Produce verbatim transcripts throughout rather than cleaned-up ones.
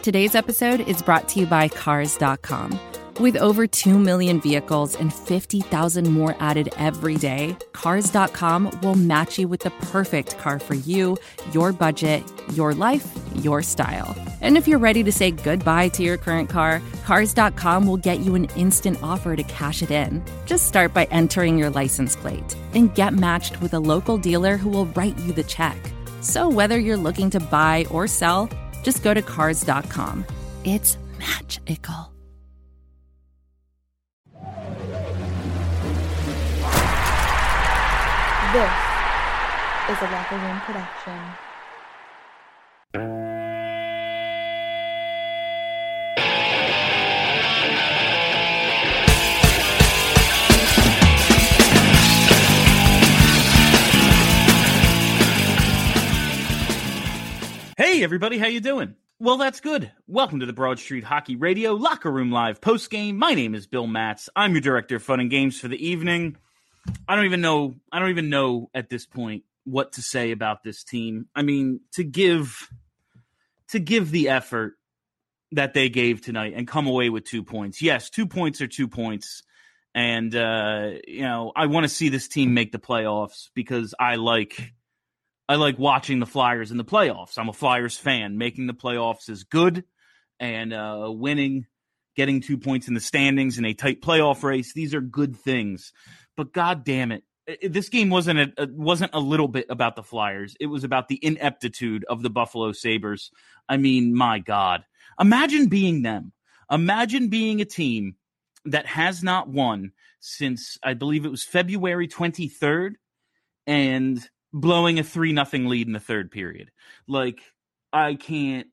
Today's episode is brought to you by Cars dot com. With over two million vehicles and fifty thousand more added every day, Cars dot com will match you with the perfect car for you, your budget, your life, your style. And if you're ready to say goodbye to your current car, Cars dot com will get you an instant offer to cash it in. Just start by entering your license plate and get matched with a local dealer who will write you the check. So whether you're looking to buy or sell, just go to Cars dot com. It's magical. This is a Locker Room production. Hey everybody, how you doing? Well, that's good. Welcome to the Broad Street Hockey Radio Locker Room Live postgame. My name is Bill Matz. I'm your director of fun and games for the evening. I don't even know. I don't even know at this point what to say about this team. I mean, to give to give the effort that they gave tonight and come away with two points. Yes, two points are two points, and uh, you know I want to see this team make the playoffs because I like I like watching the Flyers in the playoffs. I'm a Flyers fan. Making the playoffs is good, and uh, winning, getting two points in the standings in a tight playoff race. These are good things. But God damn it, this game wasn't a, wasn't a little bit about the Flyers. It was about the ineptitude of the Buffalo Sabres. I mean, my God. Imagine being them. Imagine being a team that has not won since, I believe it was February twenty-third, and blowing a three nothing lead in the third period. Like, I can't...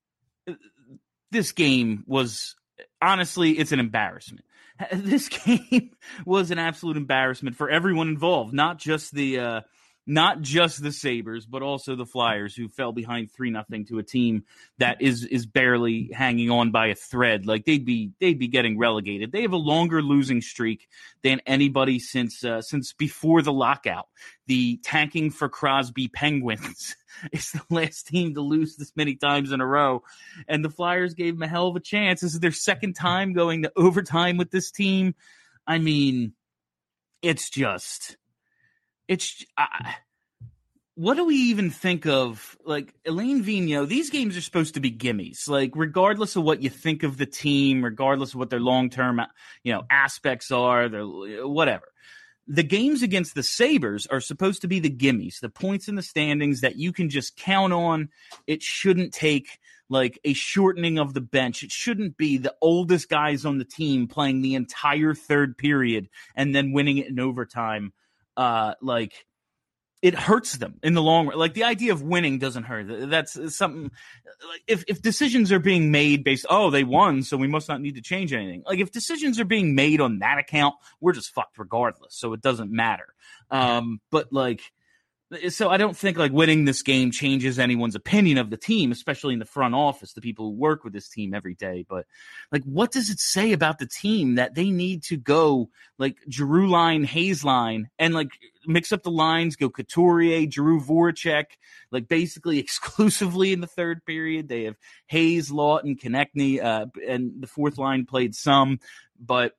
This game was... Honestly, it's an embarrassment. This game was an absolute embarrassment for everyone involved, not just the uh, not just the Sabres, but also the Flyers, who fell behind three nothing to a team that is is barely hanging on by a thread. Like they'd be they'd be getting relegated. They have a longer losing streak than anybody since uh, since before the lockout. The tanking for Crosby Penguins is the last team to lose this many times in a row. And the Flyers gave them a hell of a chance. This is their second time going to overtime with this team. I mean, it's just, it's, uh, what do we even think of? Like, Alain Vigneault, these games are supposed to be gimmies. Like, regardless of what you think of the team, regardless of what their long-term, you know, aspects are, their whatever. The games against the Sabres are supposed to be the gimmies, the points in the standings that you can just count on. It shouldn't take like a shortening of the bench. It shouldn't be the oldest guys on the team playing the entire third period and then winning it in overtime. Uh, like, it hurts them in the long run. Like, the idea of winning doesn't hurt. That's something. Like, if if decisions are being made based, oh, they won, so we must not need to change anything. Like, if decisions are being made on that account, we're just fucked regardless. So it doesn't matter. Um, but like, so I don't think like winning this game changes anyone's opinion of the team, especially in the front office, the people who work with this team every day. But like, what does it say about the team that they need to go like Giroux line, Hayes line, and like mix up the lines, go Couturier, Giroux, Voracek, like basically exclusively in the third period. They have Hayes, Lawton, Konechny, uh, and the fourth line played some, but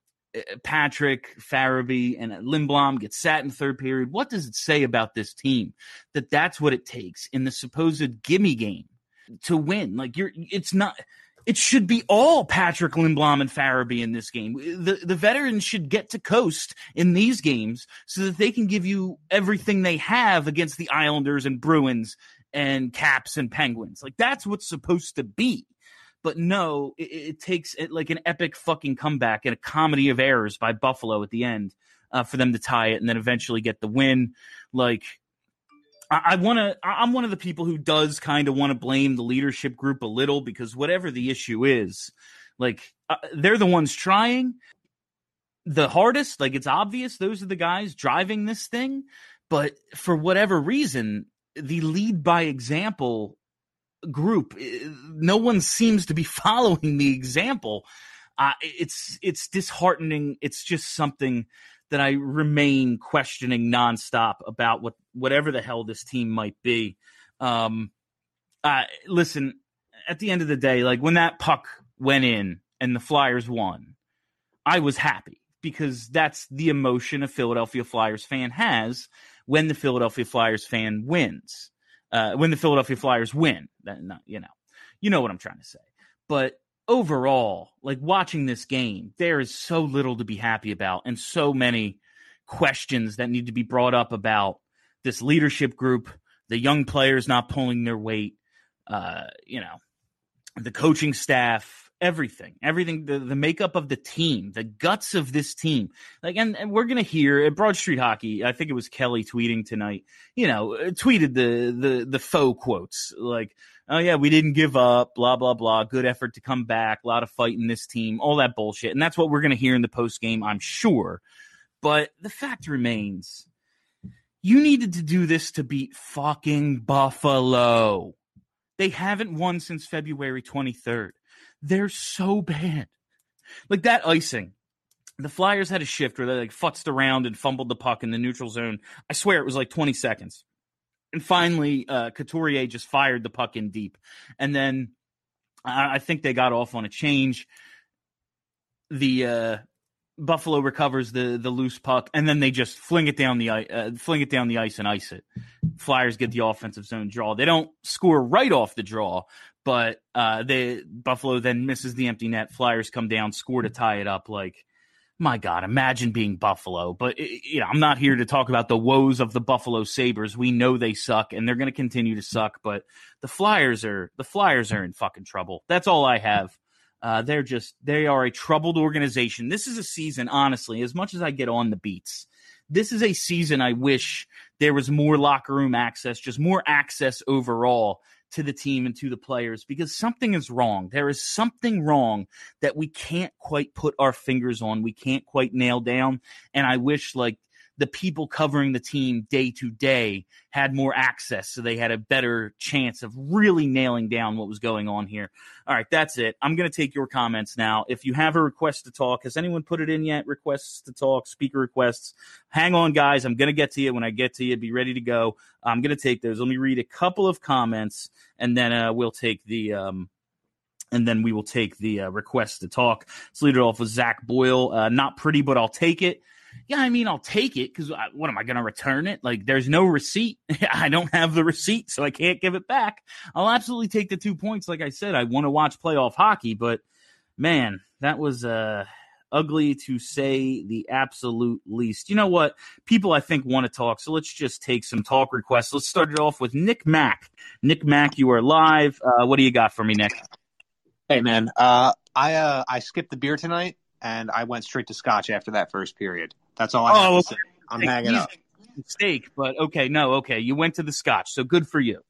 Patrick, Farabee, and Lindblom get sat in the third period. What does it say about this team that that's what it takes in the supposed gimme game to win? Like, you're, it's not, it should be all Patrick, Lindblom, and Farabee in this game. The, the veterans should get to coast in these games so that they can give you everything they have against the Islanders and Bruins and Caps and Penguins. Like, that's what's supposed to be. But no, it, it takes it like an epic fucking comeback and a comedy of errors by Buffalo at the end uh, for them to tie it and then eventually get the win. Like, I, I want to. I'm one of the people who does kind of want to blame the leadership group a little because whatever the issue is, like uh, they're the ones trying the hardest. Like, it's obvious those are the guys driving this thing. But for whatever reason, the lead by example group, no one seems to be following the example. Uh, it's it's disheartening. It's just something that I remain questioning nonstop about what whatever the hell this team might be. Um, uh, listen, at the end of the day, like when that puck went in and the Flyers won, I was happy because that's the emotion a Philadelphia Flyers fan has when the Philadelphia Flyers fan wins. Uh, when the Philadelphia Flyers win, then you know, you know what I'm trying to say. But overall, like watching this game, there is so little to be happy about and so many questions that need to be brought up about this leadership group, the young players not pulling their weight, uh, you know, the coaching staff, everything, everything, the, the makeup of the team, the guts of this team. Like, and, and we're going to hear at Broad Street Hockey, I think it was Kelly tweeting tonight, you know, tweeted the, the, the faux quotes like, oh yeah, we didn't give up, blah, blah, blah. Good effort to come back. A lot of fight in this team, all that bullshit. And that's what we're going to hear in the post game, I'm sure. But the fact remains, you needed to do this to beat fucking Buffalo. They haven't won since February twenty-third. They're so bad. Like that icing. The Flyers had a shift where they like futzed around and fumbled the puck in the neutral zone. I swear it was like twenty seconds. And finally, uh, Couturier just fired the puck in deep. And then I, I think they got off on a change. The uh, Buffalo recovers the the loose puck, and then they just fling it down the uh, fling it down the ice and ice it. Flyers get the offensive zone draw. They don't score right off the draw, but uh, they Buffalo then misses the empty net. Flyers come down, score to tie it up. Like, my God, imagine being Buffalo. But you know, I'm not here to talk about the woes of the Buffalo Sabres. We know they suck, and they're going to continue to suck. But the Flyers are the Flyers are in fucking trouble. That's all I have. Uh, they're just they are a troubled organization. This is a season, honestly, as much as I get on the beats, this is a season I wish there was more locker room access, just more access overall to the team and to the players, because something is wrong. There is something wrong that we can't quite put our fingers on. We can't quite nail down. And I wish like the people covering the team day to day had more access so they had a better chance of really nailing down what was going on here. All right, that's it. I'm going to take your comments now. If you have a request to talk, has anyone put it in yet? Requests to talk, speaker requests. Hang on, guys. I'm going to get to you. When I get to you, be ready to go. I'm going to take those. Let me read a couple of comments, and then uh, we'll take the um, – and then we will take the uh, request to talk. Let's lead it off with Zach Boyle. Uh, not pretty, but I'll take it. Yeah, I mean, I'll take it because what am I going to return it? Like, there's no receipt. I don't have the receipt, so I can't give it back. I'll absolutely take the two points. Like I said, I want to watch playoff hockey, but man, that was uh, ugly to say the absolute least. You know what? People, I think, want to talk, so let's just take some talk requests. Let's start it off with Nick Mack. Nick Mack, you are live. Uh, what do you got for me, Nick? Hey, man. Uh, I uh, I skipped the beer tonight, and I went straight to scotch after that first period. That's all I have oh, to say. I'm okay. hanging up. Mistake, but okay, no, okay. You went to the scotch, so good for you.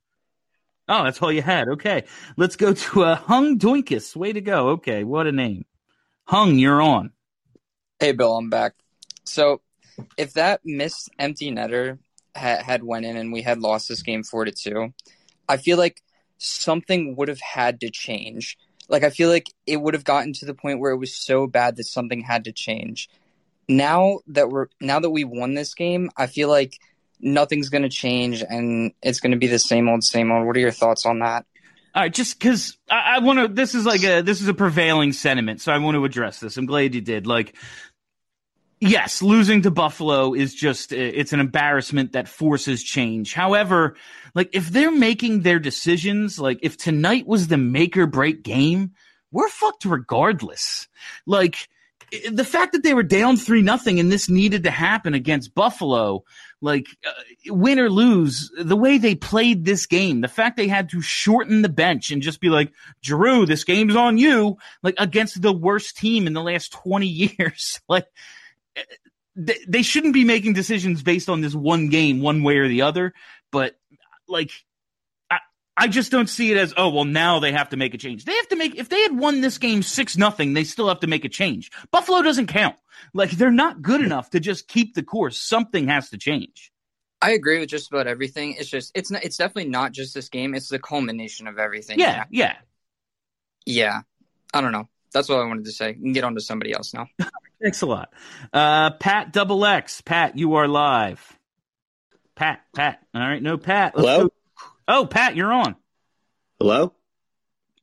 Oh, that's all you had. Okay, let's go to uh, Hung Doinkus. Way to go. Okay, what a name. Hung, you're on. Hey, Bill, I'm back. So if that missed empty netter ha- had went in and we had lost this game four to two, I feel like something would have had to change. Like, I feel like it would have gotten to the point where it was so bad that something had to change. Now that we're now that we won this game, I feel like nothing's going to change and it's going to be the same old, same old. What are your thoughts on that? All right, just because I, I want to. This is like a this is a prevailing sentiment, so I want to address this. I'm glad you did. Like, yes, losing to Buffalo is just it's an embarrassment that forces change. However, like if they're making their decisions, like if tonight was the make or break game, we're fucked regardless. Like the fact that they were down three nothing and this needed to happen against Buffalo, like uh, win or lose, the way they played this game, the fact they had to shorten the bench and just be like, Giroux, this game's on you, like against the worst team in the last twenty years, like. They shouldn't be making decisions based on this one game, one way or the other. But, like, I, I just don't see it as, oh, well, now they have to make a change. They have to make – if they had won this game six nothing, they still have to make a change. Buffalo doesn't count. Like, they're not good enough to just keep the course. Something has to change. I agree with just about everything. It's just – it's not, it's definitely not just this game. It's the culmination of everything. Yeah, yeah. Yeah. I don't know. That's what I wanted to say. You can get on to somebody else now. Thanks a lot. Uh, Pat Double X. Pat, you are live. Pat, Pat. All right, no Pat. Let's Hello? Go. Oh, Pat, you're on. Hello?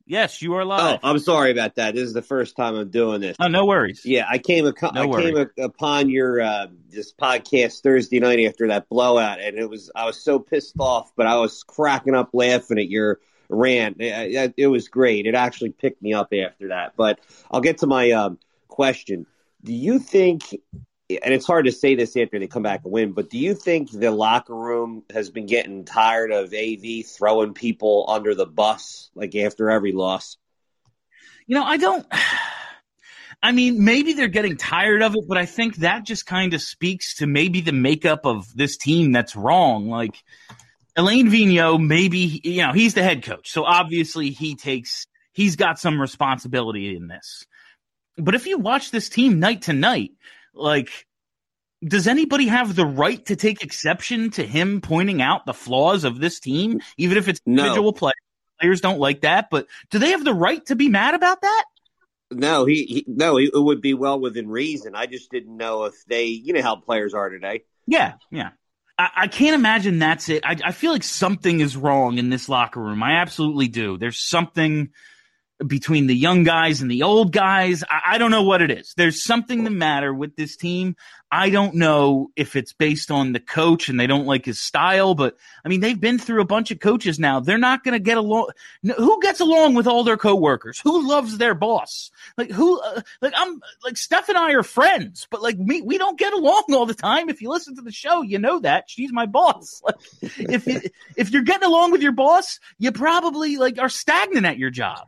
Yes, you are Oh, live. I'm sorry about that. This is the first time I'm doing this. Oh, no worries. Yeah, I came ac- No I worries. came a- upon your uh, this podcast Thursday night after that blowout, and it was I was so pissed off, but I was cracking up laughing at your rant. It, it was great. It actually picked me up after that. But I'll get to my um, question. Do you think, and it's hard to say this after they come back and win, but do you think the locker room has been getting tired of A V throwing people under the bus like after every loss? You know, I don't – I mean, maybe they're getting tired of it, but I think that just kind of speaks to maybe the makeup of this team that's wrong. Like, Alain Vigneault, maybe – you know, he's the head coach, so obviously he takes – he's got some responsibility in this. But if you watch this team night to night, like, does anybody have the right to take exception to him pointing out the flaws of this team, even if it's No. individual players? Players don't like that, but do they have the right to be mad about that? No, he, he no, he, it would be well within reason. I just didn't know if they, you know how players are today. Yeah, yeah. I, I can't imagine that's it. I, I feel like something is wrong in this locker room. I absolutely do. There's something between the young guys and the old guys. I, I don't know what it is. There's something the matter with this team. I don't know if it's based on the coach and they don't like his style, but I mean, they've been through a bunch of coaches now. They're not going to get along. Who gets along with all their coworkers? Who loves their boss? Like who, uh, like I'm like Steph and I are friends, but like me, we don't get along all the time. If you listen to the show, you know that she's my boss. Like if, you, if you're getting along with your boss, you probably like are stagnant at your job.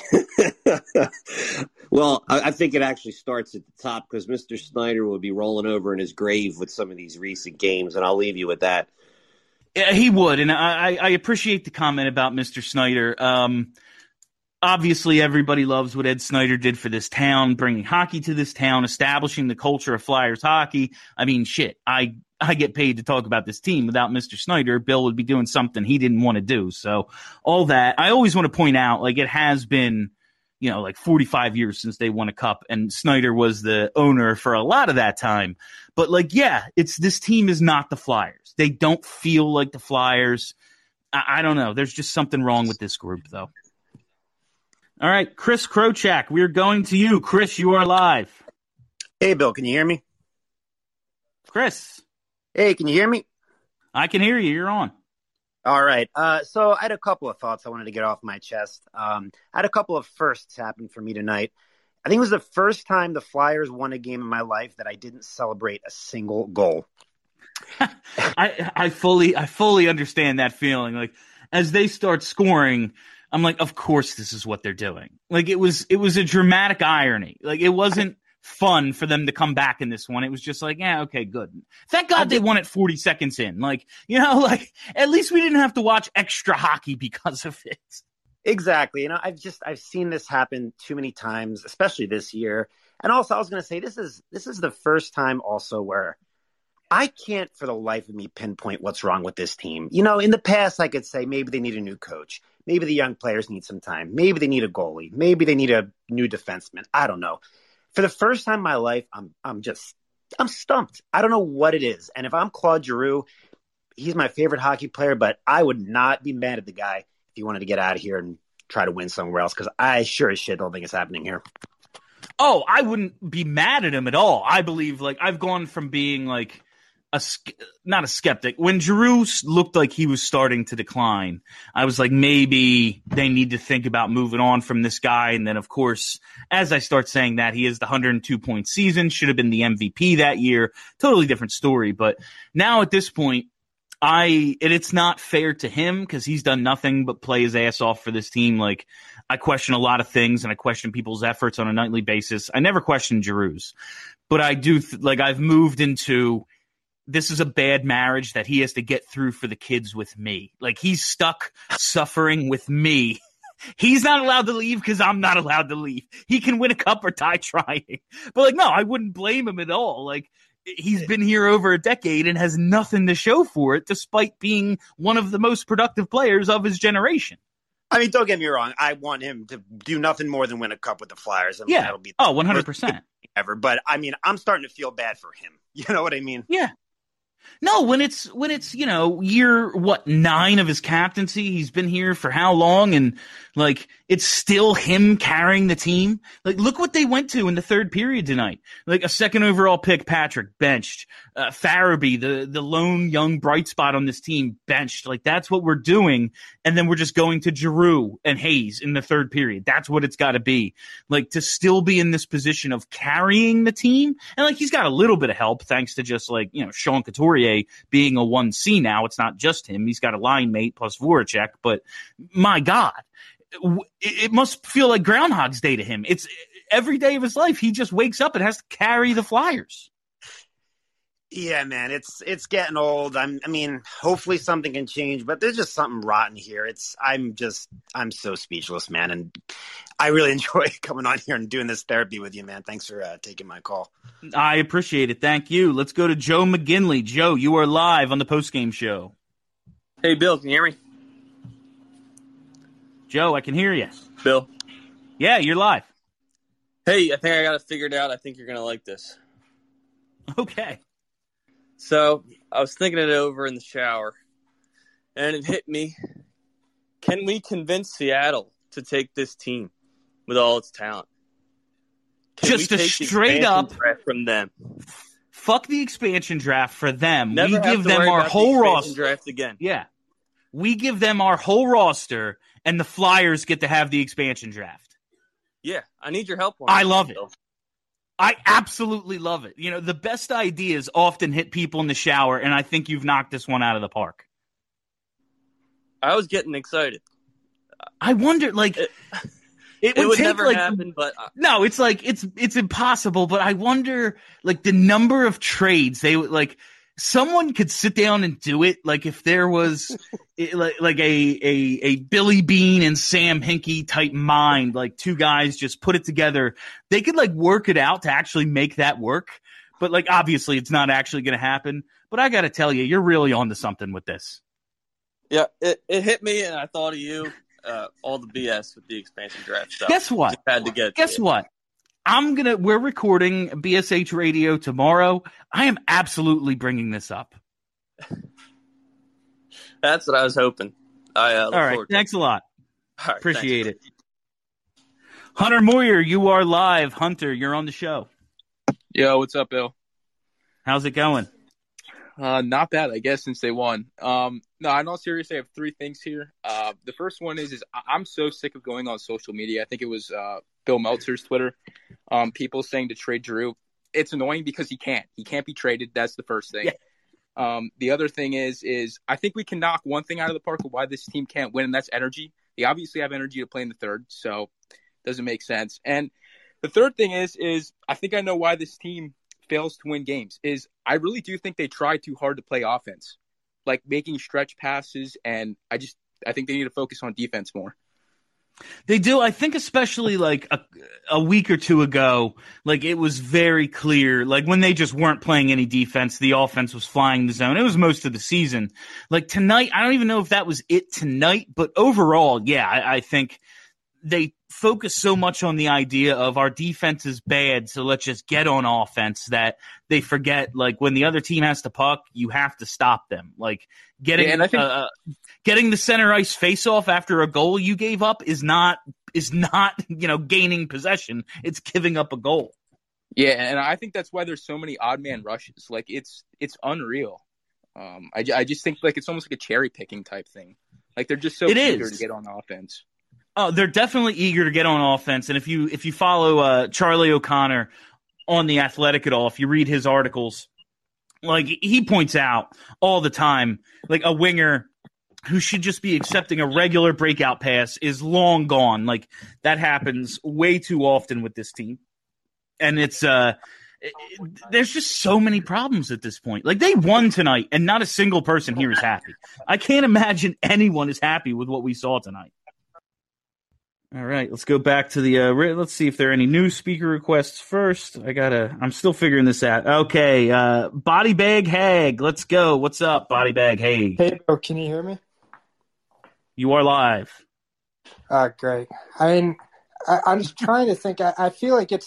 Well, I, I think it actually starts at the top because Mister Snyder will be rolling over in his grave with some of these recent games, and I'll leave you with that. Yeah, he would, and I, I appreciate the comment about Mister Snyder. Um, obviously, everybody loves what Ed Snyder did for this town, bringing hockey to this town, establishing the culture of Flyers hockey. I mean, shit, I I get paid to talk about this team. Without Mister Snyder, Bill would be doing something he didn't want to do. So all that, I always want to point out, like it has been, you know, like forty-five years since they won a cup, and Snyder was the owner for a lot of that time. But like, yeah, it's this team is not the Flyers. They don't feel like the Flyers. I, I don't know. There's just something wrong with this group, though. All right, Chris Krochak, we're going to you. Chris, you are live. Hey, Bill, can you hear me? Chris. Hey, can you hear me? I can hear you. You're on. All right. Uh, so I had a couple of thoughts I wanted to get off my chest. Um, I had a couple of firsts happen for me tonight. I think it was the first time the Flyers won a game in my life that I didn't celebrate a single goal. I I fully I fully understand that feeling. Like as they start scoring, I'm like, of course this is what they're doing. Like it was it was a dramatic irony. Like it wasn't fun for them to come back in this one. It was just like, yeah, okay, good. Thank God they won it forty seconds in. Like, you know, like at least we didn't have to watch extra hockey because of it. Exactly. You know, I've just I've seen this happen too many times, especially this year. And also I was going to say this is this is the first time also where I can't for the life of me pinpoint what's wrong with this team. You know, in the past I could say maybe they need a new coach. Maybe the young players need some time. Maybe they need a goalie. Maybe they need a new defenseman. I don't know. For the first time in my life, I'm I'm just I'm stumped. I don't know what it is. And if I'm Claude Giroux, he's my favorite hockey player, but I would not be mad at the guy if he wanted to get out of here and try to win somewhere else, because I sure as shit don't think it's happening here. Oh, I wouldn't be mad at him at all. I believe, like, I've gone from being like a not a skeptic when Giroux looked like he was starting to decline. I was like, maybe they need to think about moving on from this guy. And then, of course, as I start saying that, he is the one hundred two point season, should have been the M V P that year. Totally different story. But now at this point, I and it's not fair to him because he's done nothing but play his ass off for this team. Like, I question a lot of things and I question people's efforts on a nightly basis. I never question Giroux's, but I do th- like I've moved into this is a bad marriage that he has to get through for the kids with me. Like, he's stuck suffering with me. He's not allowed to leave because I'm not allowed to leave. He can win a cup or die trying. But, like, no, I wouldn't blame him at all. Like, he's been here over a decade and has nothing to show for it, despite being one of the most productive players of his generation. I mean, don't get me wrong. I want him to do nothing more than win a cup with the Flyers. I mean, Yeah. That'll be Oh, one hundred percent. ever. But, I mean, I'm starting to feel bad for him. You know what I mean? Yeah. No, when it's when it's you know year what nine of his captaincy, he's been here for how long, and like it's still him carrying the team. Like look what they went to in the third period tonight. Like a second overall pick, Patrick benched, uh, Farabee, the the lone young bright spot on this team, benched. Like that's what we're doing, and then we're just going to Giroux and Hayes in the third period. That's what it's got to be. Like to still be in this position of carrying the team, and like he's got a little bit of help thanks to just like you know Sean Couturier being a one C now. It's not just him. He's got a line mate plus Voracek, but my God, it must feel like Groundhog's Day to him. It's every day of his life. He just wakes up and has to carry the Flyers. Yeah, man, it's it's getting old. I'm, I mean, hopefully something can change, but there's just something rotten here. It's I'm just I'm so speechless, man, and I really enjoy coming on here and doing this therapy with you, man. Thanks for uh, taking my call. I appreciate it. Thank you. Let's go to Joe McGinley. Joe, you are live on the postgame show. Hey, Bill, can you hear me? Joe, I can hear you. Bill? Yeah, you're live. Hey, I think I got it figured out. I think you're going to like this. Okay. So, I was thinking it over in the shower, and it hit me. Can we convince Seattle to take this team with all its talent? Can Just we a take straight the up draft from them? Fuck the expansion draft for them. Never we have give to them worry our about whole the roster. draft again. Yeah. We give them our whole roster, and the Flyers get to have the expansion draft. Yeah, I need your help on I that, love it. Bill. I absolutely love it. You know, the best ideas often hit people in the shower, and I think you've knocked this one out of the park. I was getting excited. I wonder, like, it, it would, it would take, never like, happen, but uh, no, it's like it's it's impossible. But I wonder, like, the number of trades they would like. Someone could sit down and do it, like if there was like like a, a a Billy Bean and Sam Hinkie type mind, like two guys just put it together. They could like work it out to actually make that work. But like obviously it's not actually going to happen. But I got to tell you, you're really onto something with this. Yeah, it, it hit me, and I thought of you. Uh, all the B S with the expansion draft stuff. Guess what? Just had to get. Guess to what? I'm gonna. We're recording B S H Radio tomorrow. I am absolutely bringing this up. That's what I was hoping. I uh, look All right. forward to Thanks it. a lot. All right, Appreciate thanks. it. Hunter Moyer, you are live. Hunter, you're on the show. Yo, what's up, Bill? How's it going? Uh, not bad, I guess, since they won. Um, no, in all seriousness, I have three things here. Uh, the first one is, is I'm so sick of going on social media. I think it was uh, Bill Meltzer's Twitter. Um, people saying to trade Giroux. It's annoying because he can't. He can't be traded. That's the first thing. Yeah. Um, the other thing is, is I think we can knock one thing out of the park of why this team can't win, and that's energy. They obviously have energy to play in the third, so it doesn't make sense. And the third thing is, is I think I know why this team fails to win games. Is I really do think they try too hard to play offense, like making stretch passes, and I just I think they need to focus on defense more. They do. I think especially like a, a week or two ago, like it was very clear, like when they just weren't playing any defense, the offense was flying the zone. It was most of the season. Like tonight, I don't even know if that was it tonight, but overall, yeah, I, I think they focus so much on the idea of our defense is bad, so let's just get on offense that they forget, like, when the other team has the puck, you have to stop them. Like, getting Yeah, and I think- uh, getting the center ice face-off after a goal you gave up is not is not, you know, gaining possession. It's giving up a goal. Yeah, and I think that's why there's so many odd man rushes. Like, it's it's unreal. Um, I, I just think, like, it's almost like a cherry-picking type thing. Like, they're just so It eager is. to get on offense. Oh, they're definitely eager to get on offense. And if you if you follow uh, Charlie O'Connor on The Athletic at all, if you read his articles, like he points out all the time, like a winger who should just be accepting a regular breakout pass is long gone. Like that happens way too often with this team. And it's uh, it, it, there's just so many problems at this point. Like they won tonight, and not a single person here is happy. I can't imagine anyone is happy with what we saw tonight. All right, let's go back to the. Uh, let's see if there are any new speaker requests first. I gotta. I'm still figuring this out. Okay, uh, Body Bag Hag, let's go. What's up, Body Bag Hag? Hey, bro, can you hear me? You are live. Uh, great. I mean, I, I'm just trying to think. I, I feel like it's a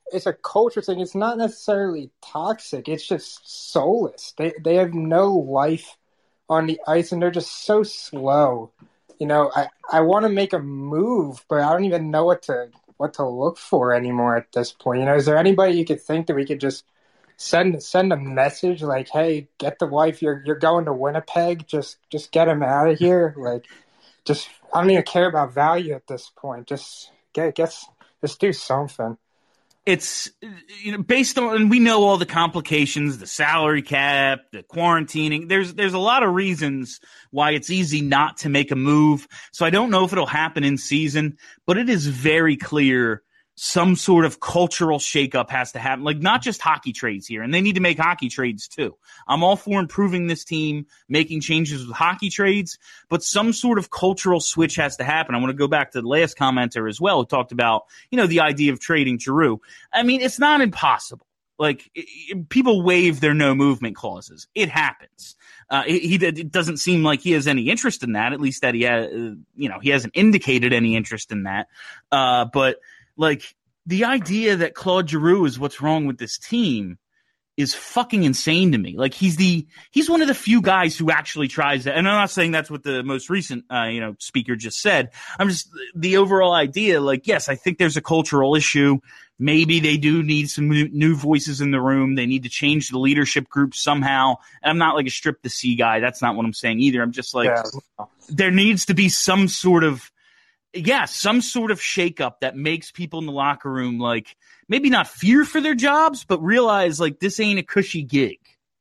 it's a culture thing. It's not necessarily toxic. It's just soulless. They they have no life on the ice, and they're just so slow. You know, I, I want to make a move, but I don't even know what to what to look for anymore at this point. You know, is there anybody you could think that we could just send send a message like, hey, get the wife, you're you're going to Winnipeg, just just get him out of here. Like, just I don't even care about value at this point. Just get get just do something. It's, you know, based on, and we know all the complications, the salary cap, the quarantining. There's there's a lot of reasons why it's easy not to make a move. So I don't know if it'll happen in season, but it is very clear some sort of cultural shakeup has to happen. Like, not just hockey trades here, and they need to make hockey trades too. I'm all for improving this team, making changes with hockey trades, but some sort of cultural switch has to happen. I want to go back to the last commenter as well, who talked about, you know, the idea of trading Giroux. I mean, it's not impossible. Like, it, it, people waive their no movement clauses. It happens. Uh, he, he it doesn't seem like he has any interest in that, at least that he has, uh, you know, he hasn't indicated any interest in that. Uh, but Like, the idea that Claude Giroux is what's wrong with this team is fucking insane to me. Like, he's the he's one of the few guys who actually tries that. And I'm not saying that's what the most recent uh, you know speaker just said. I'm just the overall idea. Like, yes, I think there's a cultural issue. Maybe they do need some new, new voices in the room. They need to change the leadership group somehow. And I'm not like a strip the sea guy. That's not what I'm saying either. I'm just like, yeah. There needs to be some sort of Yeah, some sort of shakeup that makes people in the locker room, like, maybe not fear for their jobs, but realize, like, this ain't a cushy gig.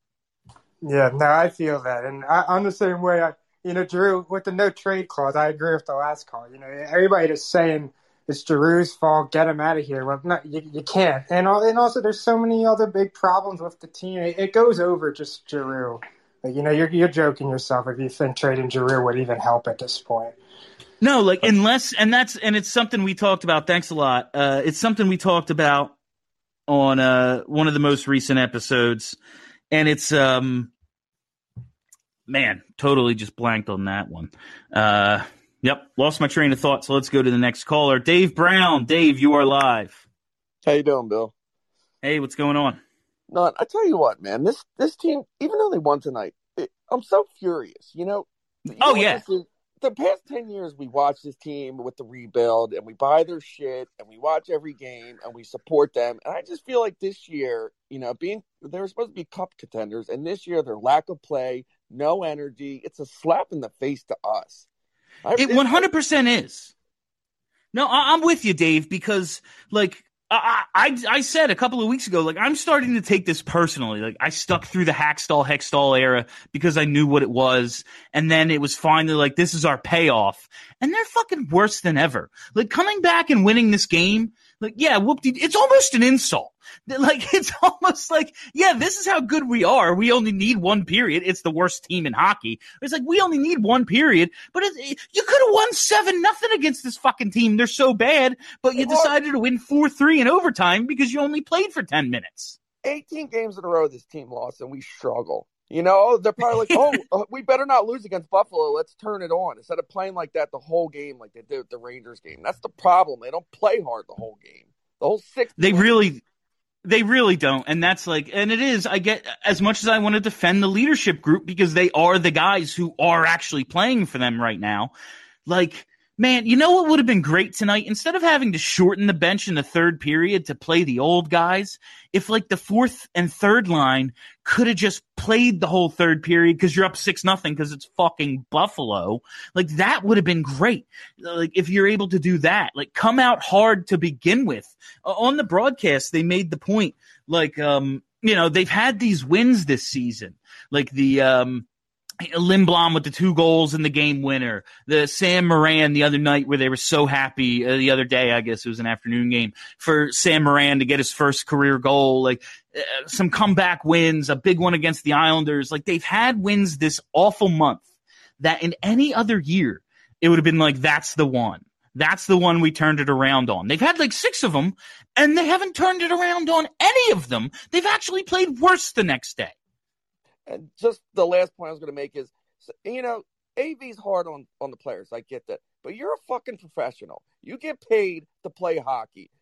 Yeah, no, I feel that. And I, I'm the same way. I, you know, Giroux, with the no trade clause, I agree with the last call. You know, everybody is saying it's Giroux's fault, get him out of here. Well, no, you, you can't. And, and also, there's so many other big problems with the team. It, it goes over just Giroux. Like, you know, you're, you're joking yourself if you think trading Giroux would even help at this point. No, like, unless, and that's, and it's something we talked about. Thanks a lot. Uh, it's something we talked about on uh, one of the most recent episodes, and it's, um, man, totally just blanked on that one. Uh, yep, lost my train of thought. So let's go to the next caller, Dave Brown. Dave, you are live. How you doing, Bill? Hey, what's going on? No, I tell you what, man. This this team, even though they won tonight, it, I'm so furious. You know. You oh know yeah. The past ten years, we watch this team with the rebuild, and we buy their shit, and we watch every game, and we support them. And I just feel like this year, you know, being they were supposed to be cup contenders, and this year, their lack of play, no energy, it's a slap in the face to us. I, it one hundred percent is. No, I, I'm with you, Dave, because, like, I, I I said a couple of weeks ago, like, I'm starting to take this personally. Like, I stuck through the Hackstall, Hextall era because I knew what it was. And then it was finally like, this is our payoff. And they're fucking worse than ever. Like, coming back and winning this game, like, yeah, whoop-de, it's almost an insult. Like, it's almost like, yeah, this is how good we are. We only need one period. It's the worst team in hockey. It's like, we only need one period. But it, it, you could have won seven nothing against this fucking team. They're so bad. But you decided to win four three in overtime because you only played for ten minutes. eighteen games in a row this team lost, and we struggle. You know, they're probably like, oh, we better not lose against Buffalo. Let's turn it on. Instead of playing like that the whole game like they did with the Rangers game. That's the problem. They don't play hard the whole game. The whole six. They really they really don't. And that's like, and it is, I get, as much as I want to defend the leadership group because they are the guys who are actually playing for them right now. Like, man, you know what would have been great tonight? Instead of having to shorten the bench in the third period to play the old guys, if like the fourth and third line could have just played the whole third period because you're up six nothing because it's fucking Buffalo, like that would have been great. Like if you're able to do that, like come out hard to begin with. Uh, on the broadcast, they made the point, like, um, you know, they've had these wins this season, like the, um, Lindblom with the two goals in the game winner, the Sam Moran the other night where they were so happy uh, the other day, I guess it was an afternoon game for Sam Moran to get his first career goal, like uh, some comeback wins, a big one against the Islanders. Like they've had wins this awful month that in any other year, it would have been like, that's the one. That's the one we turned it around on. They've had like six of them and they haven't turned it around on any of them. They've actually played worse the next day. And just the last point I was going to make is, you know, A V's hard on, on the players. I get that. But you're a fucking professional. You get paid to play hockey.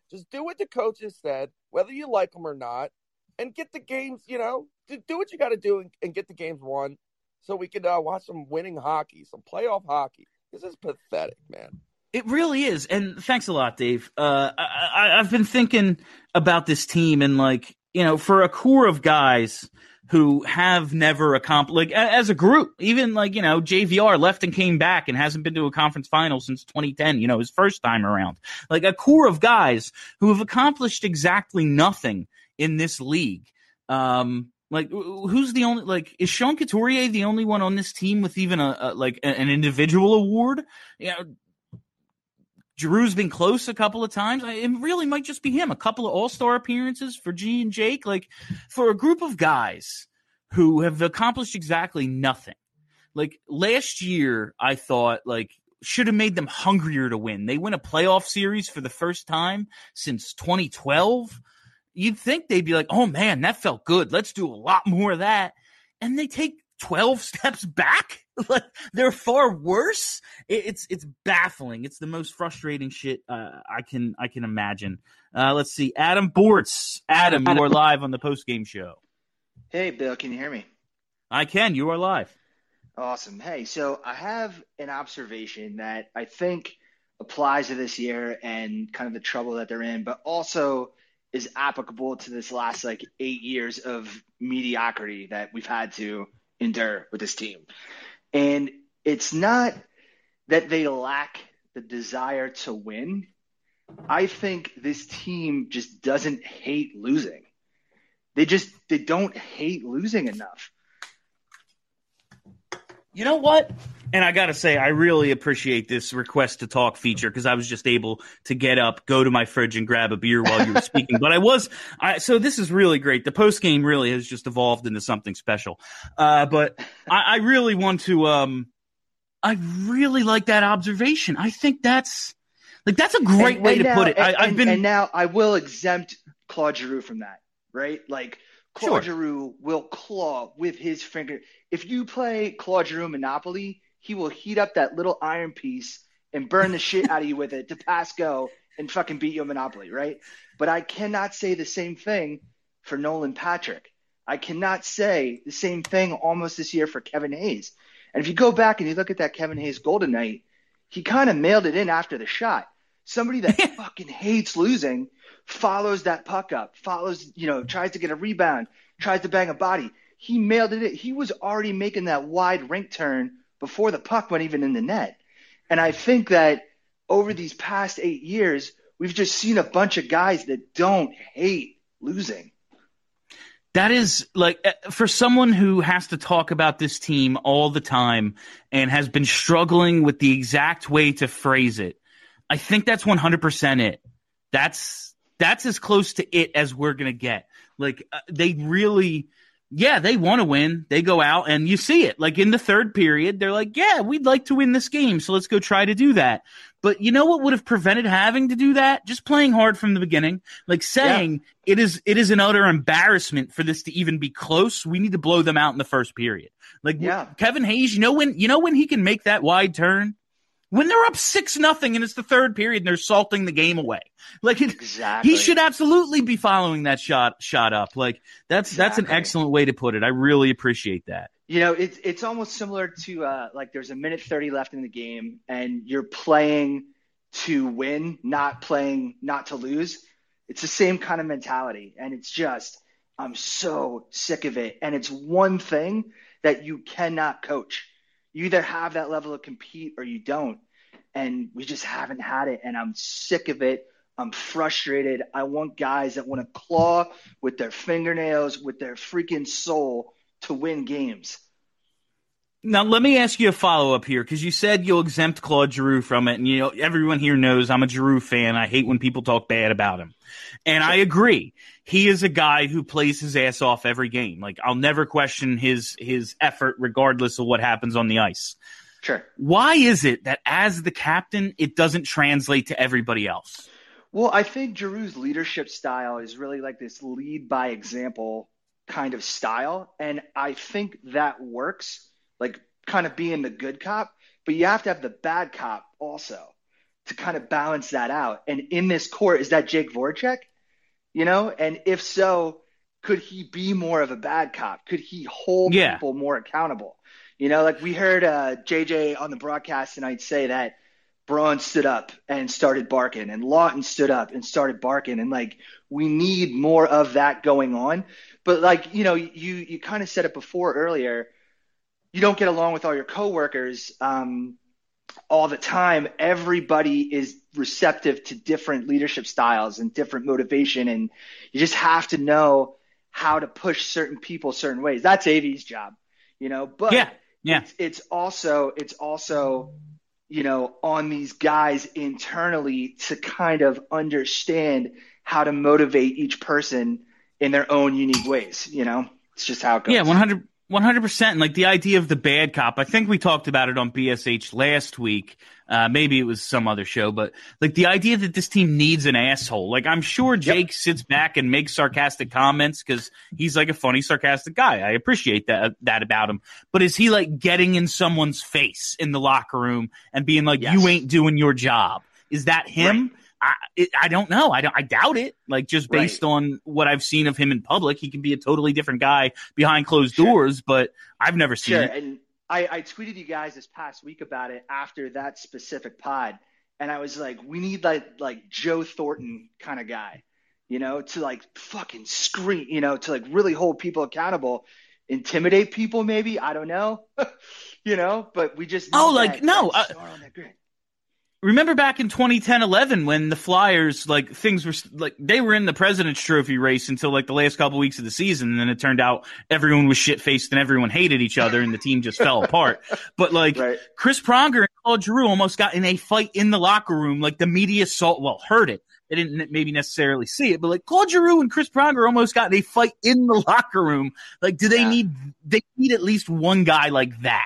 Just do what the coaches said, whether you like them or not, and get the games, you know, do what you got to do and, and get the games won so we can uh, watch some winning hockey, some playoff hockey. This is pathetic, man. It really is. And thanks a lot, Dave. Uh, I, I, I've been thinking about this team and, like, you know, for a core of guys who have never accomplished, like, as a group, even, like, you know, J V R left and came back and hasn't been to a conference final since twenty ten, you know, his first time around. Like, a core of guys who have accomplished exactly nothing in this league. Um, like, who's the only, like, is Sean Couturier the only one on this team with even a, a like, an individual award? You know, Giroux's been close a couple of times. It really might just be him. A couple of all-star appearances for G and Jake. Like, for a group of guys who have accomplished exactly nothing. Like, last year, I thought, like, should have made them hungrier to win. They win a playoff series for the first time since twenty twelve. You'd think they'd be like, oh, man, that felt good. Let's do a lot more of that. And they take twelve steps back. Like, they're far worse. It's it's baffling. It's the most frustrating shit uh, I can I can imagine. Uh, let's see, Adam Bortz. Adam, you are live on the post game show. Hey, Bill, can you hear me? I can. You are live. Awesome. Hey, so I have an observation that I think applies to this year and kind of the trouble that they're in, but also is applicable to this last like eight years of mediocrity that we've had to endure with this team. And it's not that they lack the desire to win. I think this team just doesn't hate losing. They just they don't hate losing enough. You know what? And I got to say, I really appreciate this request to talk feature because I was just able to get up, go to my fridge, and grab a beer while you were speaking. But I was I, – so this is really great. The post game really has just evolved into something special. Uh, but I, I really want to um, – I really like that observation. I think that's – like that's a great and, way and to now, put it. And, I, I've been – And now I will exempt Claude Giroux from that, right? Like Claude Sure. Giroux will claw with his finger. If you play Claude Giroux Monopoly – he will heat up that little iron piece and burn the shit out of you with it to pass go and fucking beat you in Monopoly, right? But I cannot say the same thing for Nolan Patrick. I cannot say the same thing almost this year for Kevin Hayes. And if you go back and you look at that Kevin Hayes Golden Knight, he kind of mailed it in after the shot. Somebody that fucking hates losing follows that puck up, follows, you know, tries to get a rebound, tries to bang a body. He mailed it in. He was already making that wide rink turn before the puck went even in the net. And I think that over these past eight years, we've just seen a bunch of guys that don't hate losing. That is like for someone who has to talk about this team all the time and has been struggling with the exact way to phrase it. I think that's one hundred percent it. That's that's as close to it as we're going to get. Like uh, they really Yeah, they want to win. They go out and you see it. Like in the third period, they're like, yeah, we'd like to win this game, so let's go try to do that. But you know what would have prevented having to do that? Just playing hard from the beginning. Like saying yeah. it is it is an utter embarrassment for this to even be close. We need to blow them out in the first period. Like yeah. Kevin Hayes, you know when you know when he can make that wide turn? When they're up six nothing and it's the third period and they're salting the game away, like it, exactly. he should absolutely be following that shot shot up. Like that's exactly. that's an excellent way to put it. I really appreciate that. You know, it's it's almost similar to uh, like there's a minute thirty left in the game and you're playing to win, not playing not to lose. It's the same kind of mentality, and it's just I'm so sick of it. And it's one thing that you cannot coach. You either have that level of compete or you don't. And we just haven't had it. And I'm sick of it. I'm frustrated. I want guys that want to claw with their fingernails, with their freaking soul to win games. Now, let me ask you a follow-up here, because you said you'll exempt Claude Giroux from it. And, you know, everyone here knows I'm a Giroux fan. I hate when people talk bad about him. And I agree. He is a guy who plays his ass off every game. Like, I'll never question his his effort regardless of what happens on the ice. Sure. Why is it that as the captain, it doesn't translate to everybody else? Well, I think Giroux's leadership style is really like this lead by example kind of style. And I think that works, like kind of being the good cop. But you have to have the bad cop also to kind of balance that out. And in this court, is that Jake Voracek? You know, and if so, could he be more of a bad cop? Could he hold yeah. people more accountable? You know, like we heard uh, J J on the broadcast tonight say that Braun stood up and started barking, and Lawton stood up and started barking, and like we need more of that going on. But like, you know, you you kind of said it before earlier, you don't get along with all your coworkers um, all the time. Everybody is receptive to different leadership styles and different motivation, and you just have to know how to push certain people certain ways. That's A V's job, you know. But yeah, yeah, it's, it's also it's also you know, on these guys internally to kind of understand how to motivate each person in their own unique ways. You know, it's just how it goes. Yeah, one hundred, one hundred percent. And like the idea of the bad cop, I think we talked about it on B S H last week. Uh, maybe it was some other show, but like the idea that this team needs an asshole. Like I'm sure Jake yep. sits back and makes sarcastic comments because he's like a funny, sarcastic guy. I appreciate that that about him. But is he like getting in someone's face in the locker room and being like, yes. "You ain't doing your job"? Is that him? Right. I it, I don't know. I don't. I doubt it. Like just based right. on what I've seen of him in public, he can be a totally different guy behind closed sure. doors. But I've never seen sure. it. And- I, I tweeted you guys this past week about it after that specific pod, and I was like, we need like like Joe Thornton kind of guy, you know, to like fucking scream, you know, to like really hold people accountable, intimidate people, maybe, I don't know, you know, but we just oh like that, no. that uh, Remember back in twenty ten eleven when the Flyers, like, things were, like, they were in the President's Trophy race until, like, the last couple weeks of the season, and then it turned out everyone was shit-faced and everyone hated each other and the team just fell apart. But, like, right. Chris Pronger and Claude Giroux almost got in a fight in the locker room. Like, the media saw, well, heard it. They didn't maybe necessarily see it, but, like, Claude Giroux and Chris Pronger almost got in a fight in the locker room. Like, do they yeah. need, they need at least one guy like that?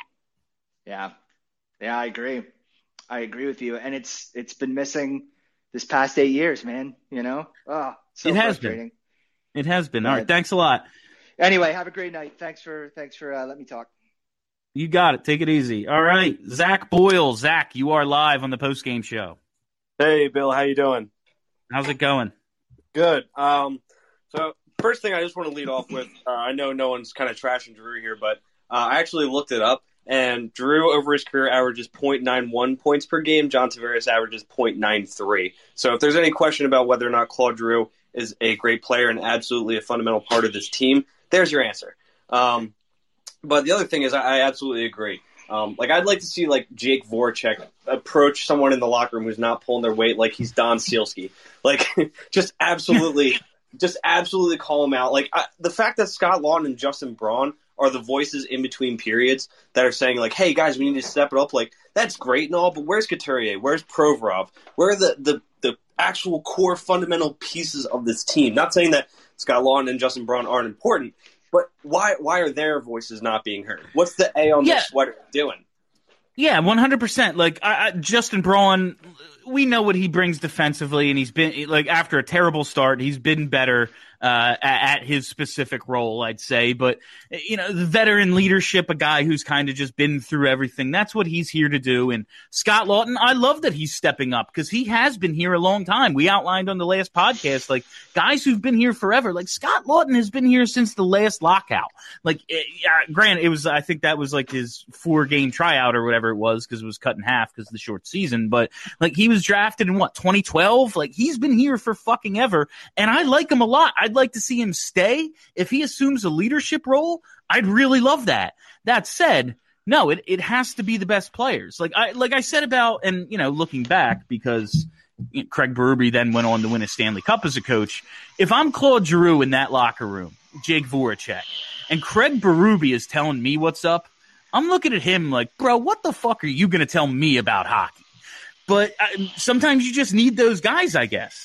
Yeah. Yeah, I agree. I agree with you, and it's it's been missing this past eight years, man. You know, oh, so it has frustrating. Been. It has been. All right, thanks a lot. Anyway, have a great night. Thanks for thanks for uh, letting me talk. You got it. Take it easy. All right, Zach Boyle. Zach, you are live on the post game show. Hey, Bill. How you doing? How's it going? Good. Um, so first thing I just want to lead off with, uh, I know no one's kind of trashing Drew here, but uh, I actually looked it up. And Drew, over his career, averages point nine one points per game. John Tavares averages point nine three. So if there's any question about whether or not Claude Giroux is a great player and absolutely a fundamental part of this team, there's your answer. Um, but the other thing is I, I absolutely agree. Um, like I'd like to see like Jake Voracek approach someone in the locker room who's not pulling their weight like he's Don Sealski. Like just absolutely, just absolutely call him out. Like I, the fact that Scott Lawton and Justin Braun are the voices in between periods that are saying, like, hey, guys, we need to step it up. Like, that's great and all, but where's Couturier? Where's Provorov? Where are the, the, the actual core fundamental pieces of this team? Not saying that Scott Lawton and Justin Braun aren't important, but why why are their voices not being heard? What's the A on yeah. the sweater doing? Yeah, one hundred percent. Like, I, I, Justin Braun, we know what he brings defensively, and he's been, like, after a terrible start, he's been better uh, at, at his specific role, I'd say. But, you know, the veteran leadership, a guy who's kind of just been through everything, that's what he's here to do. And Scott Lawton, I love that he's stepping up because he has been here a long time. We outlined on the last podcast, like, guys who've been here forever. Like, Scott Lawton has been here since the last lockout. Like, it, uh, granted, it was, I think that was like his four-game tryout or whatever it was because it was cut in half because of the short season. But, like, he was drafted in, what, twenty twelve? Like, he's been here for fucking ever. And I like him a lot. I'd like to see him stay. If he assumes a leadership role, I'd really love that. That said, no, it, it has to be the best players. Like I like I said about, and, you know, looking back, because you know, Craig Berube then went on to win a Stanley Cup as a coach. If I'm Claude Giroux in that locker room, Jake Voracek, and Craig Berube is telling me what's up, I'm looking at him like, bro, what the fuck are you going to tell me about hockey? But uh, sometimes you just need those guys, I guess.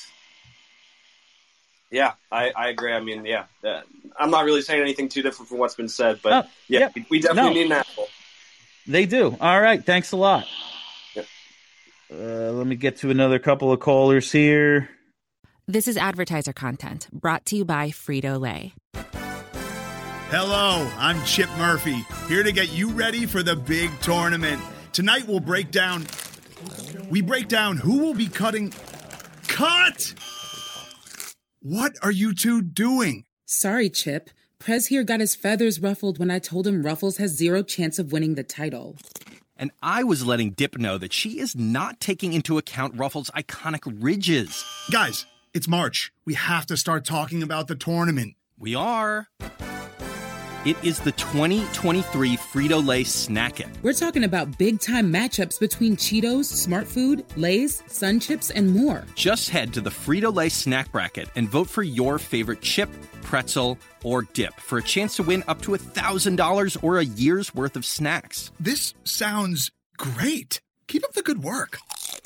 Yeah, I, I agree. I mean, yeah, uh, I'm not really saying anything too different from what's been said, but oh, yeah, yep. we, we definitely no. need an asshole. They do. All right, thanks a lot. Yep. Uh, let me get to another couple of callers here. This is advertiser content brought to you by Frito-Lay. Hello, I'm Chip Murphy, here to get you ready for the big tournament. Tonight we'll break down... we break down who will be cutting. Cut! What are you two doing? Sorry, Chip. Prez here got his feathers ruffled when I told him Ruffles has zero chance of winning the title. And I was letting Dip know that she is not taking into account Ruffles' iconic ridges. Guys, it's March. We have to start talking about the tournament. We are. It is the twenty twenty-three Frito-Lay Snack It. We're talking about big-time matchups between Cheetos, Smart Food, Lay's, Sun Chips, and more. Just head to the Frito-Lay Snack Bracket and vote for your favorite chip, pretzel, or dip for a chance to win up to one thousand dollars or a year's worth of snacks. This sounds great. Keep up the good work.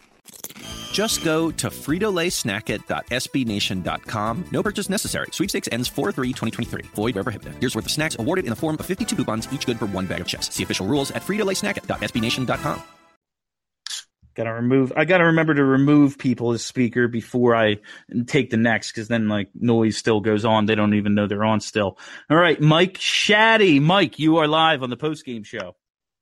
Just go to Frito Lay Snack It dot S B Nation dot com. No purchase necessary. Sweepstakes ends four three twenty twenty-three. Void where prohibited. Year's worth of snacks awarded in the form of fifty-two coupons, each good for one bag of chips. See official rules at Frito Lay Snack It dot S B Nation dot com. Gotta remove. I gotta remember to remove people as speaker before I take the next, because then like noise still goes on. They don't even know they're on still. All right, Mike Shaddy. Mike, you are live on the post game show.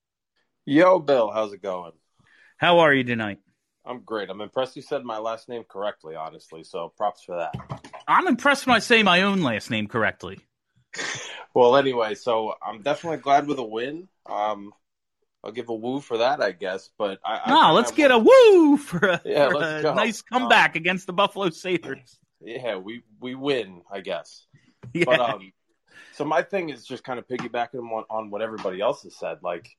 Yo, Bill, how's it going? How are you tonight? I'm great. I'm impressed you said my last name correctly, honestly, so props for that. I'm impressed when I say my own last name correctly. Well, anyway, so I'm definitely glad with a win. Um, I'll give a woo for that, I guess. But I, no, I, let's I, get a woo for a, yeah, for let's a go. nice comeback um, against the Buffalo Sabres. Yeah, we, we win, I guess. Yeah. But um, so my thing is just kind of piggybacking on, on what everybody else has said. Like,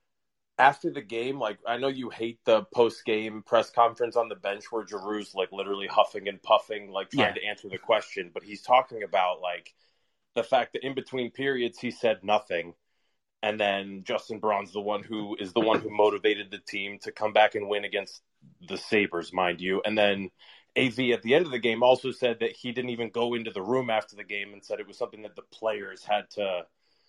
after the game, like, I know you hate the post-game press conference on the bench where Giroux's, like, literally huffing and puffing, like, trying Yeah. to answer the question. But he's talking about, like, the fact that in between periods he said nothing. And then Justin Braun's the one who is the one who motivated the team to come back and win against the Sabres, mind you. And then A V at the end of the game also said that he didn't even go into the room after the game and said it was something that the players had to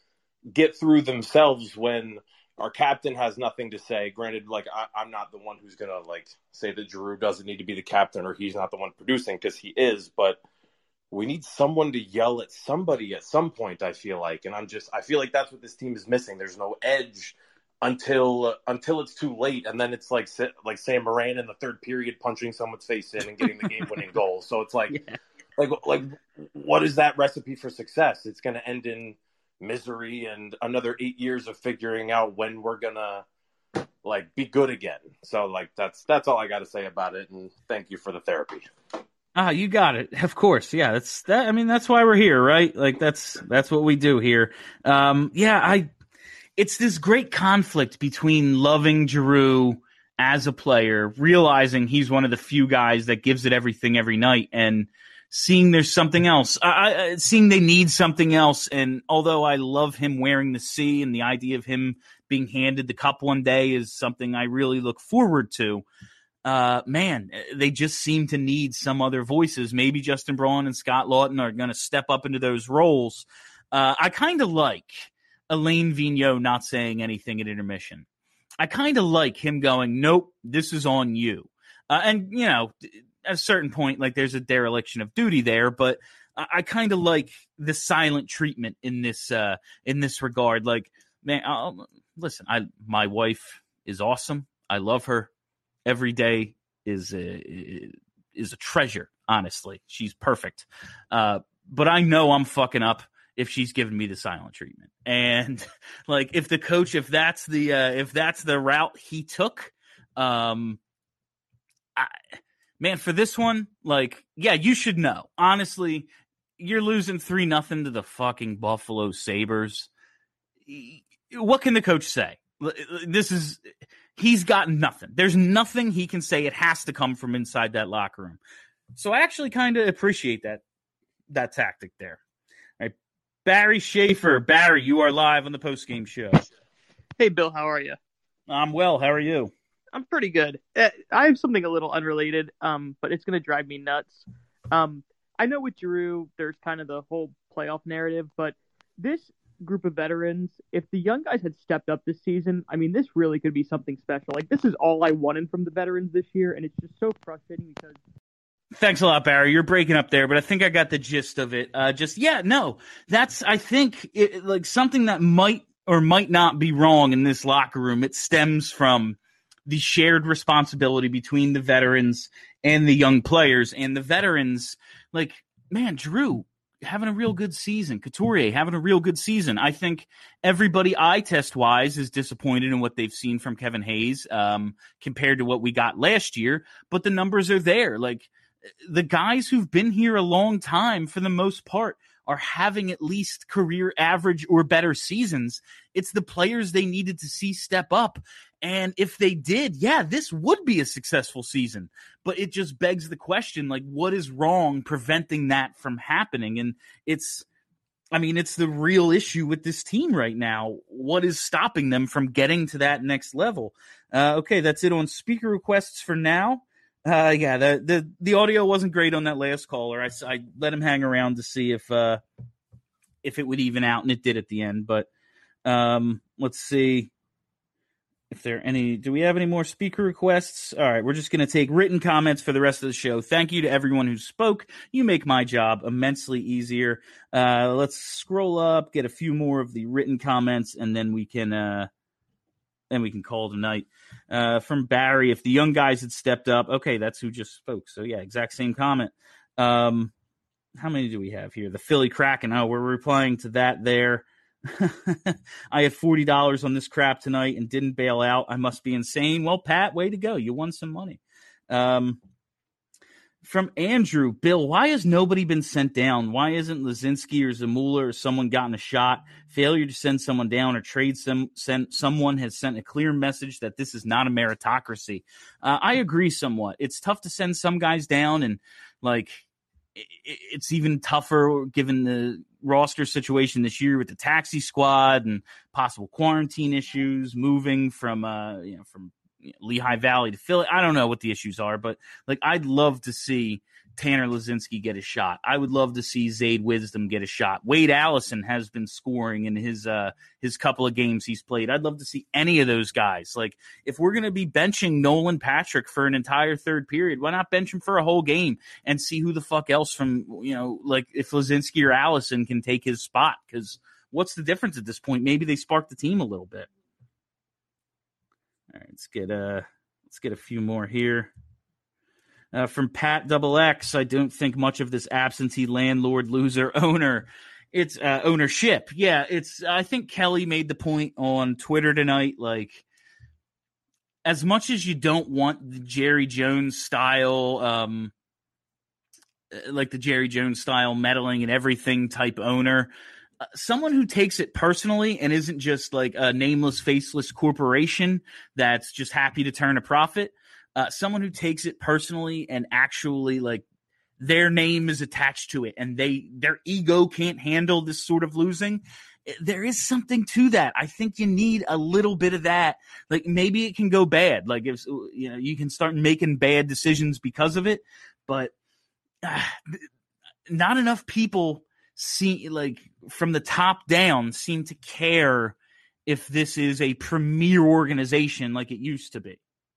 get through themselves when our captain has nothing to say. Granted, like, I, I'm not the one who's going to, like, say that Giroux doesn't need to be the captain or he's not the one producing, because he is. But we need someone to yell at somebody at some point, I feel like. And I'm just, I feel like that's what this team is missing. There's no edge until uh, until it's too late. And then it's like like Sam Moran in the third period punching someone's face in and getting the game-winning goal. So it's like, yeah. like, like, what is that recipe for success? It's going to end in misery and another eight years of figuring out when we're gonna like be good again. So like that's that's all I got to say about it. And thank you for the therapy. Ah, you got it. Of course, yeah. That's that. I mean, that's why we're here, right? Like that's that's what we do here. Um, yeah, I. It's this great conflict between loving Giroux as a player, realizing he's one of the few guys that gives it everything every night, and seeing there's something else, I, I, seeing they need something else. And although I love him wearing the C and the idea of him being handed the cup one day is something I really look forward to, uh, man, they just seem to need some other voices. Maybe Justin Braun and Scott Laughton are going to step up into those roles. Uh, I kind of like Alain Vigneault not saying anything at intermission. I kind of like him going, nope, this is on you. Uh, and, you know, at a certain point, like there's a dereliction of duty there, but I, I kind of like the silent treatment in this uh, in this regard. Like, man, I'll, listen, I my wife is awesome. I love her. Every day is a, is a treasure. Honestly, she's perfect. Uh, but I know I'm fucking up if she's giving me the silent treatment. And like, if the coach, if that's the uh, if that's the route he took, um, I. Man, for this one, like, yeah, you should know. Honestly, you're losing three nothing to the fucking Buffalo Sabres. What can the coach say? This is he's got nothing. There's nothing he can say. It has to come from inside that locker room. So I actually kind of appreciate that that tactic there. All right, Barry Schaefer. Barry, you are live on the postgame show. Hey, Bill, how are you? I'm well. How are you? I'm pretty good. Uh, I have something a little unrelated, um, but it's going to drive me nuts. Um, I know with Giroux, there's kind of the whole playoff narrative, but this group of veterans, if the young guys had stepped up this season, I mean, this really could be something special. Like, this is all I wanted from the veterans this year, and it's just so frustrating because... Thanks a lot, Barry. You're breaking up there, but I think I got the gist of it. Uh, just, yeah, no, that's, I think, it, like, something that might or might not be wrong in this locker room. It stems from the shared responsibility between the veterans and the young players. And the veterans, like, man, Drew having a real good season. Couturier having a real good season. I think everybody eye test wise is disappointed in what they've seen from Kevin Hayes um, compared to what we got last year. But the numbers are there. Like, the guys who've been here a long time, for the most part, are having at least career average or better seasons. It's the players they needed to see step up. And if they did, yeah, this would be a successful season. But it just begs the question, like, what is wrong preventing that from happening? And it's, I mean, it's the real issue with this team right now. What is stopping them from getting to that next level? Uh, okay, that's it on speaker requests for now. Uh, yeah, the, the the audio wasn't great on that last caller. I, I let him hang around to see if uh, if it would even out, and it did at the end. But um, let's see if there are any. Do we have any more speaker requests? All right, we're just going to take written comments for the rest of the show. Thank you to everyone who spoke. You make my job immensely easier. Uh, let's scroll up, get a few more of the written comments, and then we can uh, then we can call tonight. Uh, from Barry, if the young guys had stepped up, okay, that's who just spoke. So yeah, exact same comment. Um, how many do we have here? The Philly Kraken. Oh, we're replying to that there. I had forty dollars on this crap tonight and didn't bail out. I must be insane. Well, Pat, way to go. You won some money. Um, from Andrew, Bill, why has nobody been sent down? Why isn't Lazinski or Zamula or someone gotten a shot? Failure to send someone down or trade some send, someone has sent a clear message that this is not a meritocracy. Uh, I agree somewhat. It's tough to send some guys down, and like it, it's even tougher given the roster situation this year with the taxi squad and possible quarantine issues, moving from uh you know from Lehigh Valley to Philly. I don't know what the issues are, but like I'd love to see Tanner Lazinski get a shot. I would love to see Zayd Wisdom get a shot. Wade Allison has been scoring in his uh his couple of games he's played. I'd love to see any of those guys. Like if we're going to be benching Nolan Patrick for an entire third period, why not bench him for a whole game and see who the fuck else from, you know, like if Lazinski or Allison can take his spot? Because what's the difference at this point? Maybe they spark the team a little bit. All right, let's get a let's get a few more here. Uh, from Pat Double X, I don't think much of this absentee landlord loser owner. It's uh, ownership. Yeah, it's. I think Kelly made the point on Twitter tonight. Like, as much as you don't want the Jerry Jones style, um, like the Jerry Jones style meddling and everything type owner. Someone who takes it personally and isn't just like a nameless, faceless corporation that's just happy to turn a profit. Uh, someone who takes it personally and actually like their name is attached to it and they their ego can't handle this sort of losing. There is something to that. I think you need a little bit of that. Like maybe it can go bad. Like if you know you can start making bad decisions because of it, but uh, not enough people see like from the top down seem to care if this is a premier organization like it used to be.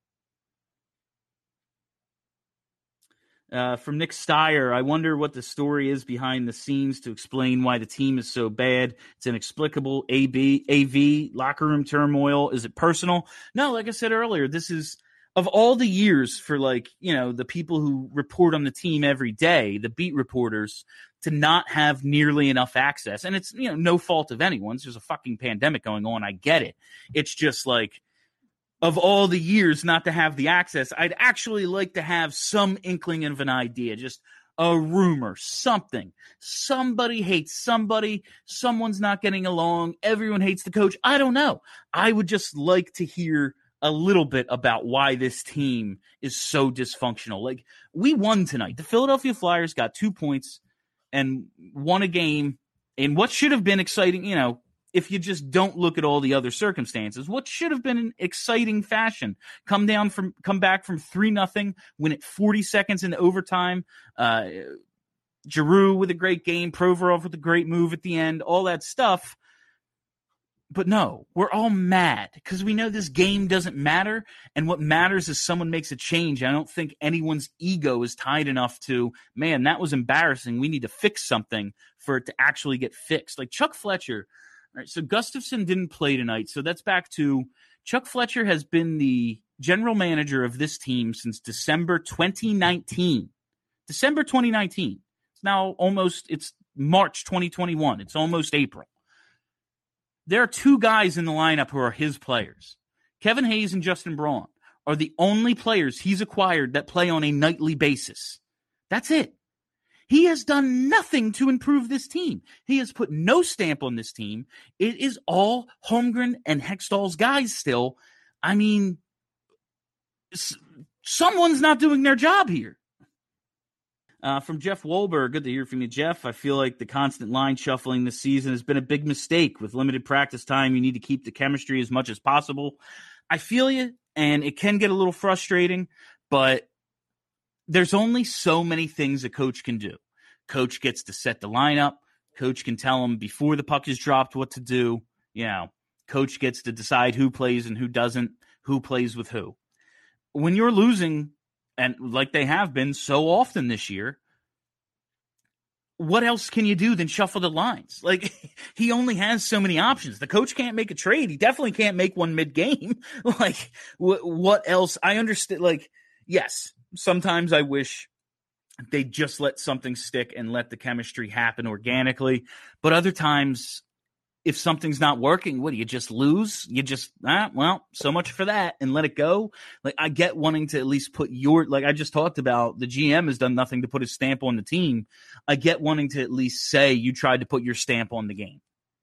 Uh, from Nick Steyer, I wonder what the story is behind the scenes to explain why the team is so bad. It's inexplicable. A B, A V, locker room turmoil. Is it personal? No, like I said earlier, this is of all the years for like, you know, the people who report on the team every day, the beat reporters, to not have nearly enough access. And it's, you know, no fault of anyone's. There's a fucking pandemic going on. I get it. It's just like, of all the years not to have the access, I'd actually like to have some inkling of an idea, just a rumor, something. Somebody hates somebody. Someone's not getting along. Everyone hates the coach. I don't know. I would just like to hear a little bit about why this team is so dysfunctional. Like, we won tonight. The Philadelphia Flyers got two points and won a game in what should have been exciting, you know, if you just don't look at all the other circumstances, what should have been an exciting fashion. Come down from, come back from three nothing, win it forty seconds into overtime. Uh, Giroux with a great game, Provorov with a great move at the end, all that stuff. But no, we're all mad because we know this game doesn't matter. And what matters is someone makes a change. I don't think anyone's ego is tied enough to, man, that was embarrassing. We need to fix something for it to actually get fixed. Like Chuck Fletcher. All right, so Gustafsson didn't play tonight. So that's back to Chuck Fletcher has been the general manager of this team since December twenty nineteen. December twenty nineteen. It's now almost, it's March twenty twenty-one. It's almost April. There are two guys in the lineup who are his players. Kevin Hayes and Justin Braun are the only players he's acquired that play on a nightly basis. That's it. He has done nothing to improve this team. He has put no stamp on this team. It is all Holmgren and Hextall's guys still. I mean, s- someone's not doing their job here. Uh, from Jeff Wolber, good to hear from you, Jeff. I feel like the constant line shuffling this season has been a big mistake. With limited practice time, you need to keep the chemistry as much as possible. I feel you, and it can get a little frustrating, but there's only so many things a coach can do. Coach gets to set the lineup. Coach can tell him before the puck is dropped what to do. You know, coach gets to decide who plays and who doesn't, who plays with who. When you're losing, and like they have been so often this year, what else can you do than shuffle the lines? Like, he only has so many options. The coach can't make a trade. He definitely can't make one mid-game. Like, wh- what else? I understand. Like, yes, sometimes I wish they just let something stick and let the chemistry happen organically. But other times, if something's not working, what do you just lose? You just, ah, well, so much for that and let it go. Like, I get wanting to at least put your, like I just talked about, the G M has done nothing to put his stamp on the team. I get wanting to at least say you tried to put your stamp on the game.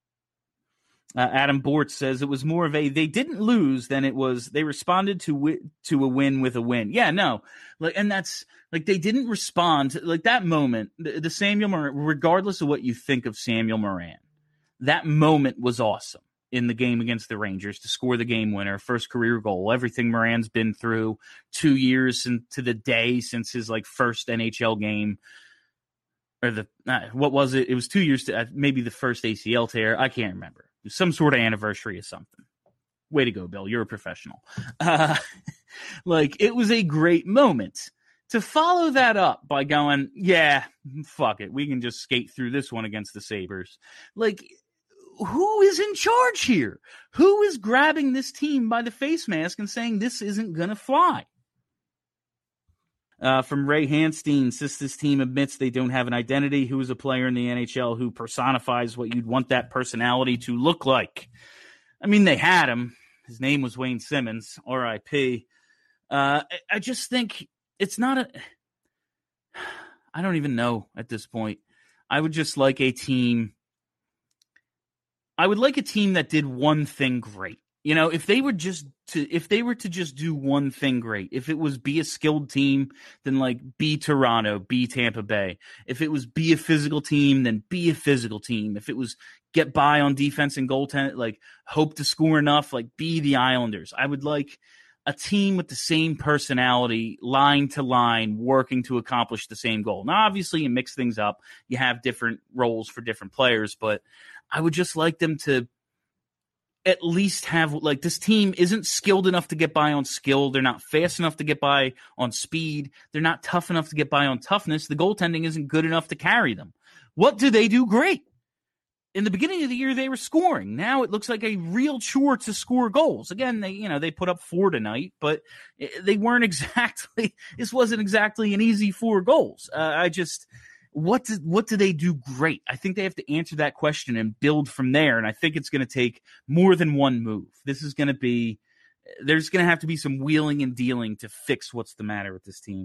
Uh, Adam Bort says it was more of a they didn't lose than it was they responded to wi- to a win with a win. Yeah, no, like, and that's like they didn't respond to, like that moment. The, the Samuel Moran, regardless of what you think of Samuel Moran, that moment was awesome in the game against the Rangers to score the game winner, first career goal. Everything Moran's been through, two years and to the day since his like first N H L game. Or the uh, what was it? It was two years to uh, maybe the first A C L tear. I can't remember. Some sort of anniversary or something. Way to go, Bill. You're a professional. Uh, like, it was a great moment. To follow that up by going, yeah, fuck it. We can just skate through this one against the Sabres. Like, who is in charge here? Who is grabbing this team by the face mask and saying this isn't going to fly? Uh, from Ray Hanstein, since this team admits they don't have an identity, who is a player in the N H L who personifies what you'd want that personality to look like? I mean, they had him. His name was Wayne Simmons, R I P. Uh, I, I just think it's not a – I don't even know at this point. I would just like a team – I would like a team that did one thing great. You know, if they were just to, if they were to just do one thing great, if it was be a skilled team, then like be Toronto, be Tampa Bay. If it was be a physical team, then be a physical team. If it was get by on defense and goaltend, like hope to score enough, like be the Islanders. I would like a team with the same personality, line to line, working to accomplish the same goal. Now, obviously, you mix things up. You have different roles for different players, but I would just like them to at least have, like, this team isn't skilled enough to get by on skill. They're not fast enough to get by on speed. They're not tough enough to get by on toughness. The goaltending isn't good enough to carry them. What do they do great? In the beginning of the year, they were scoring. Now it looks like a real chore to score goals. Again, they, you know, they put up four tonight, but they weren't exactly, this wasn't exactly an easy four goals. Uh, I just, What do, what do they do great? I think they have to answer that question and build from there, and I think it's going to take more than one move. This is going to be – there's going to have to be some wheeling and dealing to fix what's the matter with this team.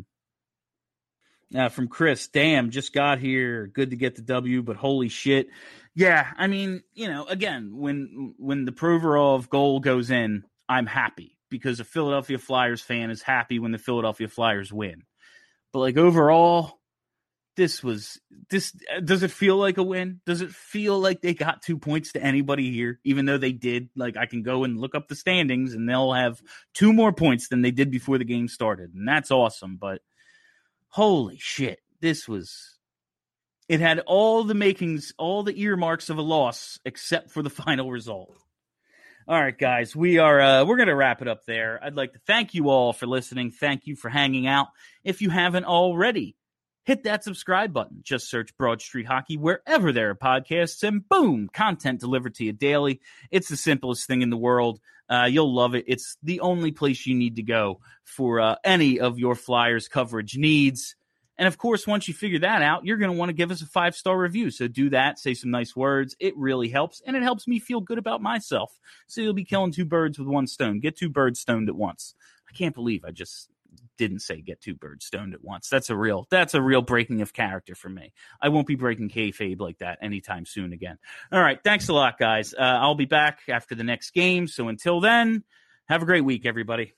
Uh, from Chris, damn, just got here. Good to get the W, but holy shit. Yeah, I mean, you know, again, when when the Provorov goal goes in, I'm happy because a Philadelphia Flyers fan is happy when the Philadelphia Flyers win. But, like, overall – This was this. Does it feel like a win? Does it feel like they got two points to anybody here, even though they did? Like, I can go and look up the standings, and they'll have two more points than they did before the game started, and that's awesome. But holy shit, this was. It had all the makings, all the earmarks of a loss, except for the final result. All right, guys, we are uh, we're gonna wrap it up there. I'd like to thank you all for listening. Thank you for hanging out. If you haven't already, hit that subscribe button. Just search Broad Street Hockey wherever there are podcasts, and boom, content delivered to you daily. It's the simplest thing in the world. Uh, you'll love it. It's the only place you need to go for uh, any of your Flyers coverage needs. And of course, once you figure that out, you're going to want to give us a five-star review. So do that, say some nice words. It really helps, and it helps me feel good about myself. So you'll be killing two birds with one stone. Get two birds stoned at once. I can't believe I just didn't say get two birds stoned at once. That's a real, that's a real breaking of character for me. I won't be breaking kayfabe like that anytime soon again. All right. Thanks a lot, guys. Uh, I'll be back after the next game. So until then, have a great week, everybody.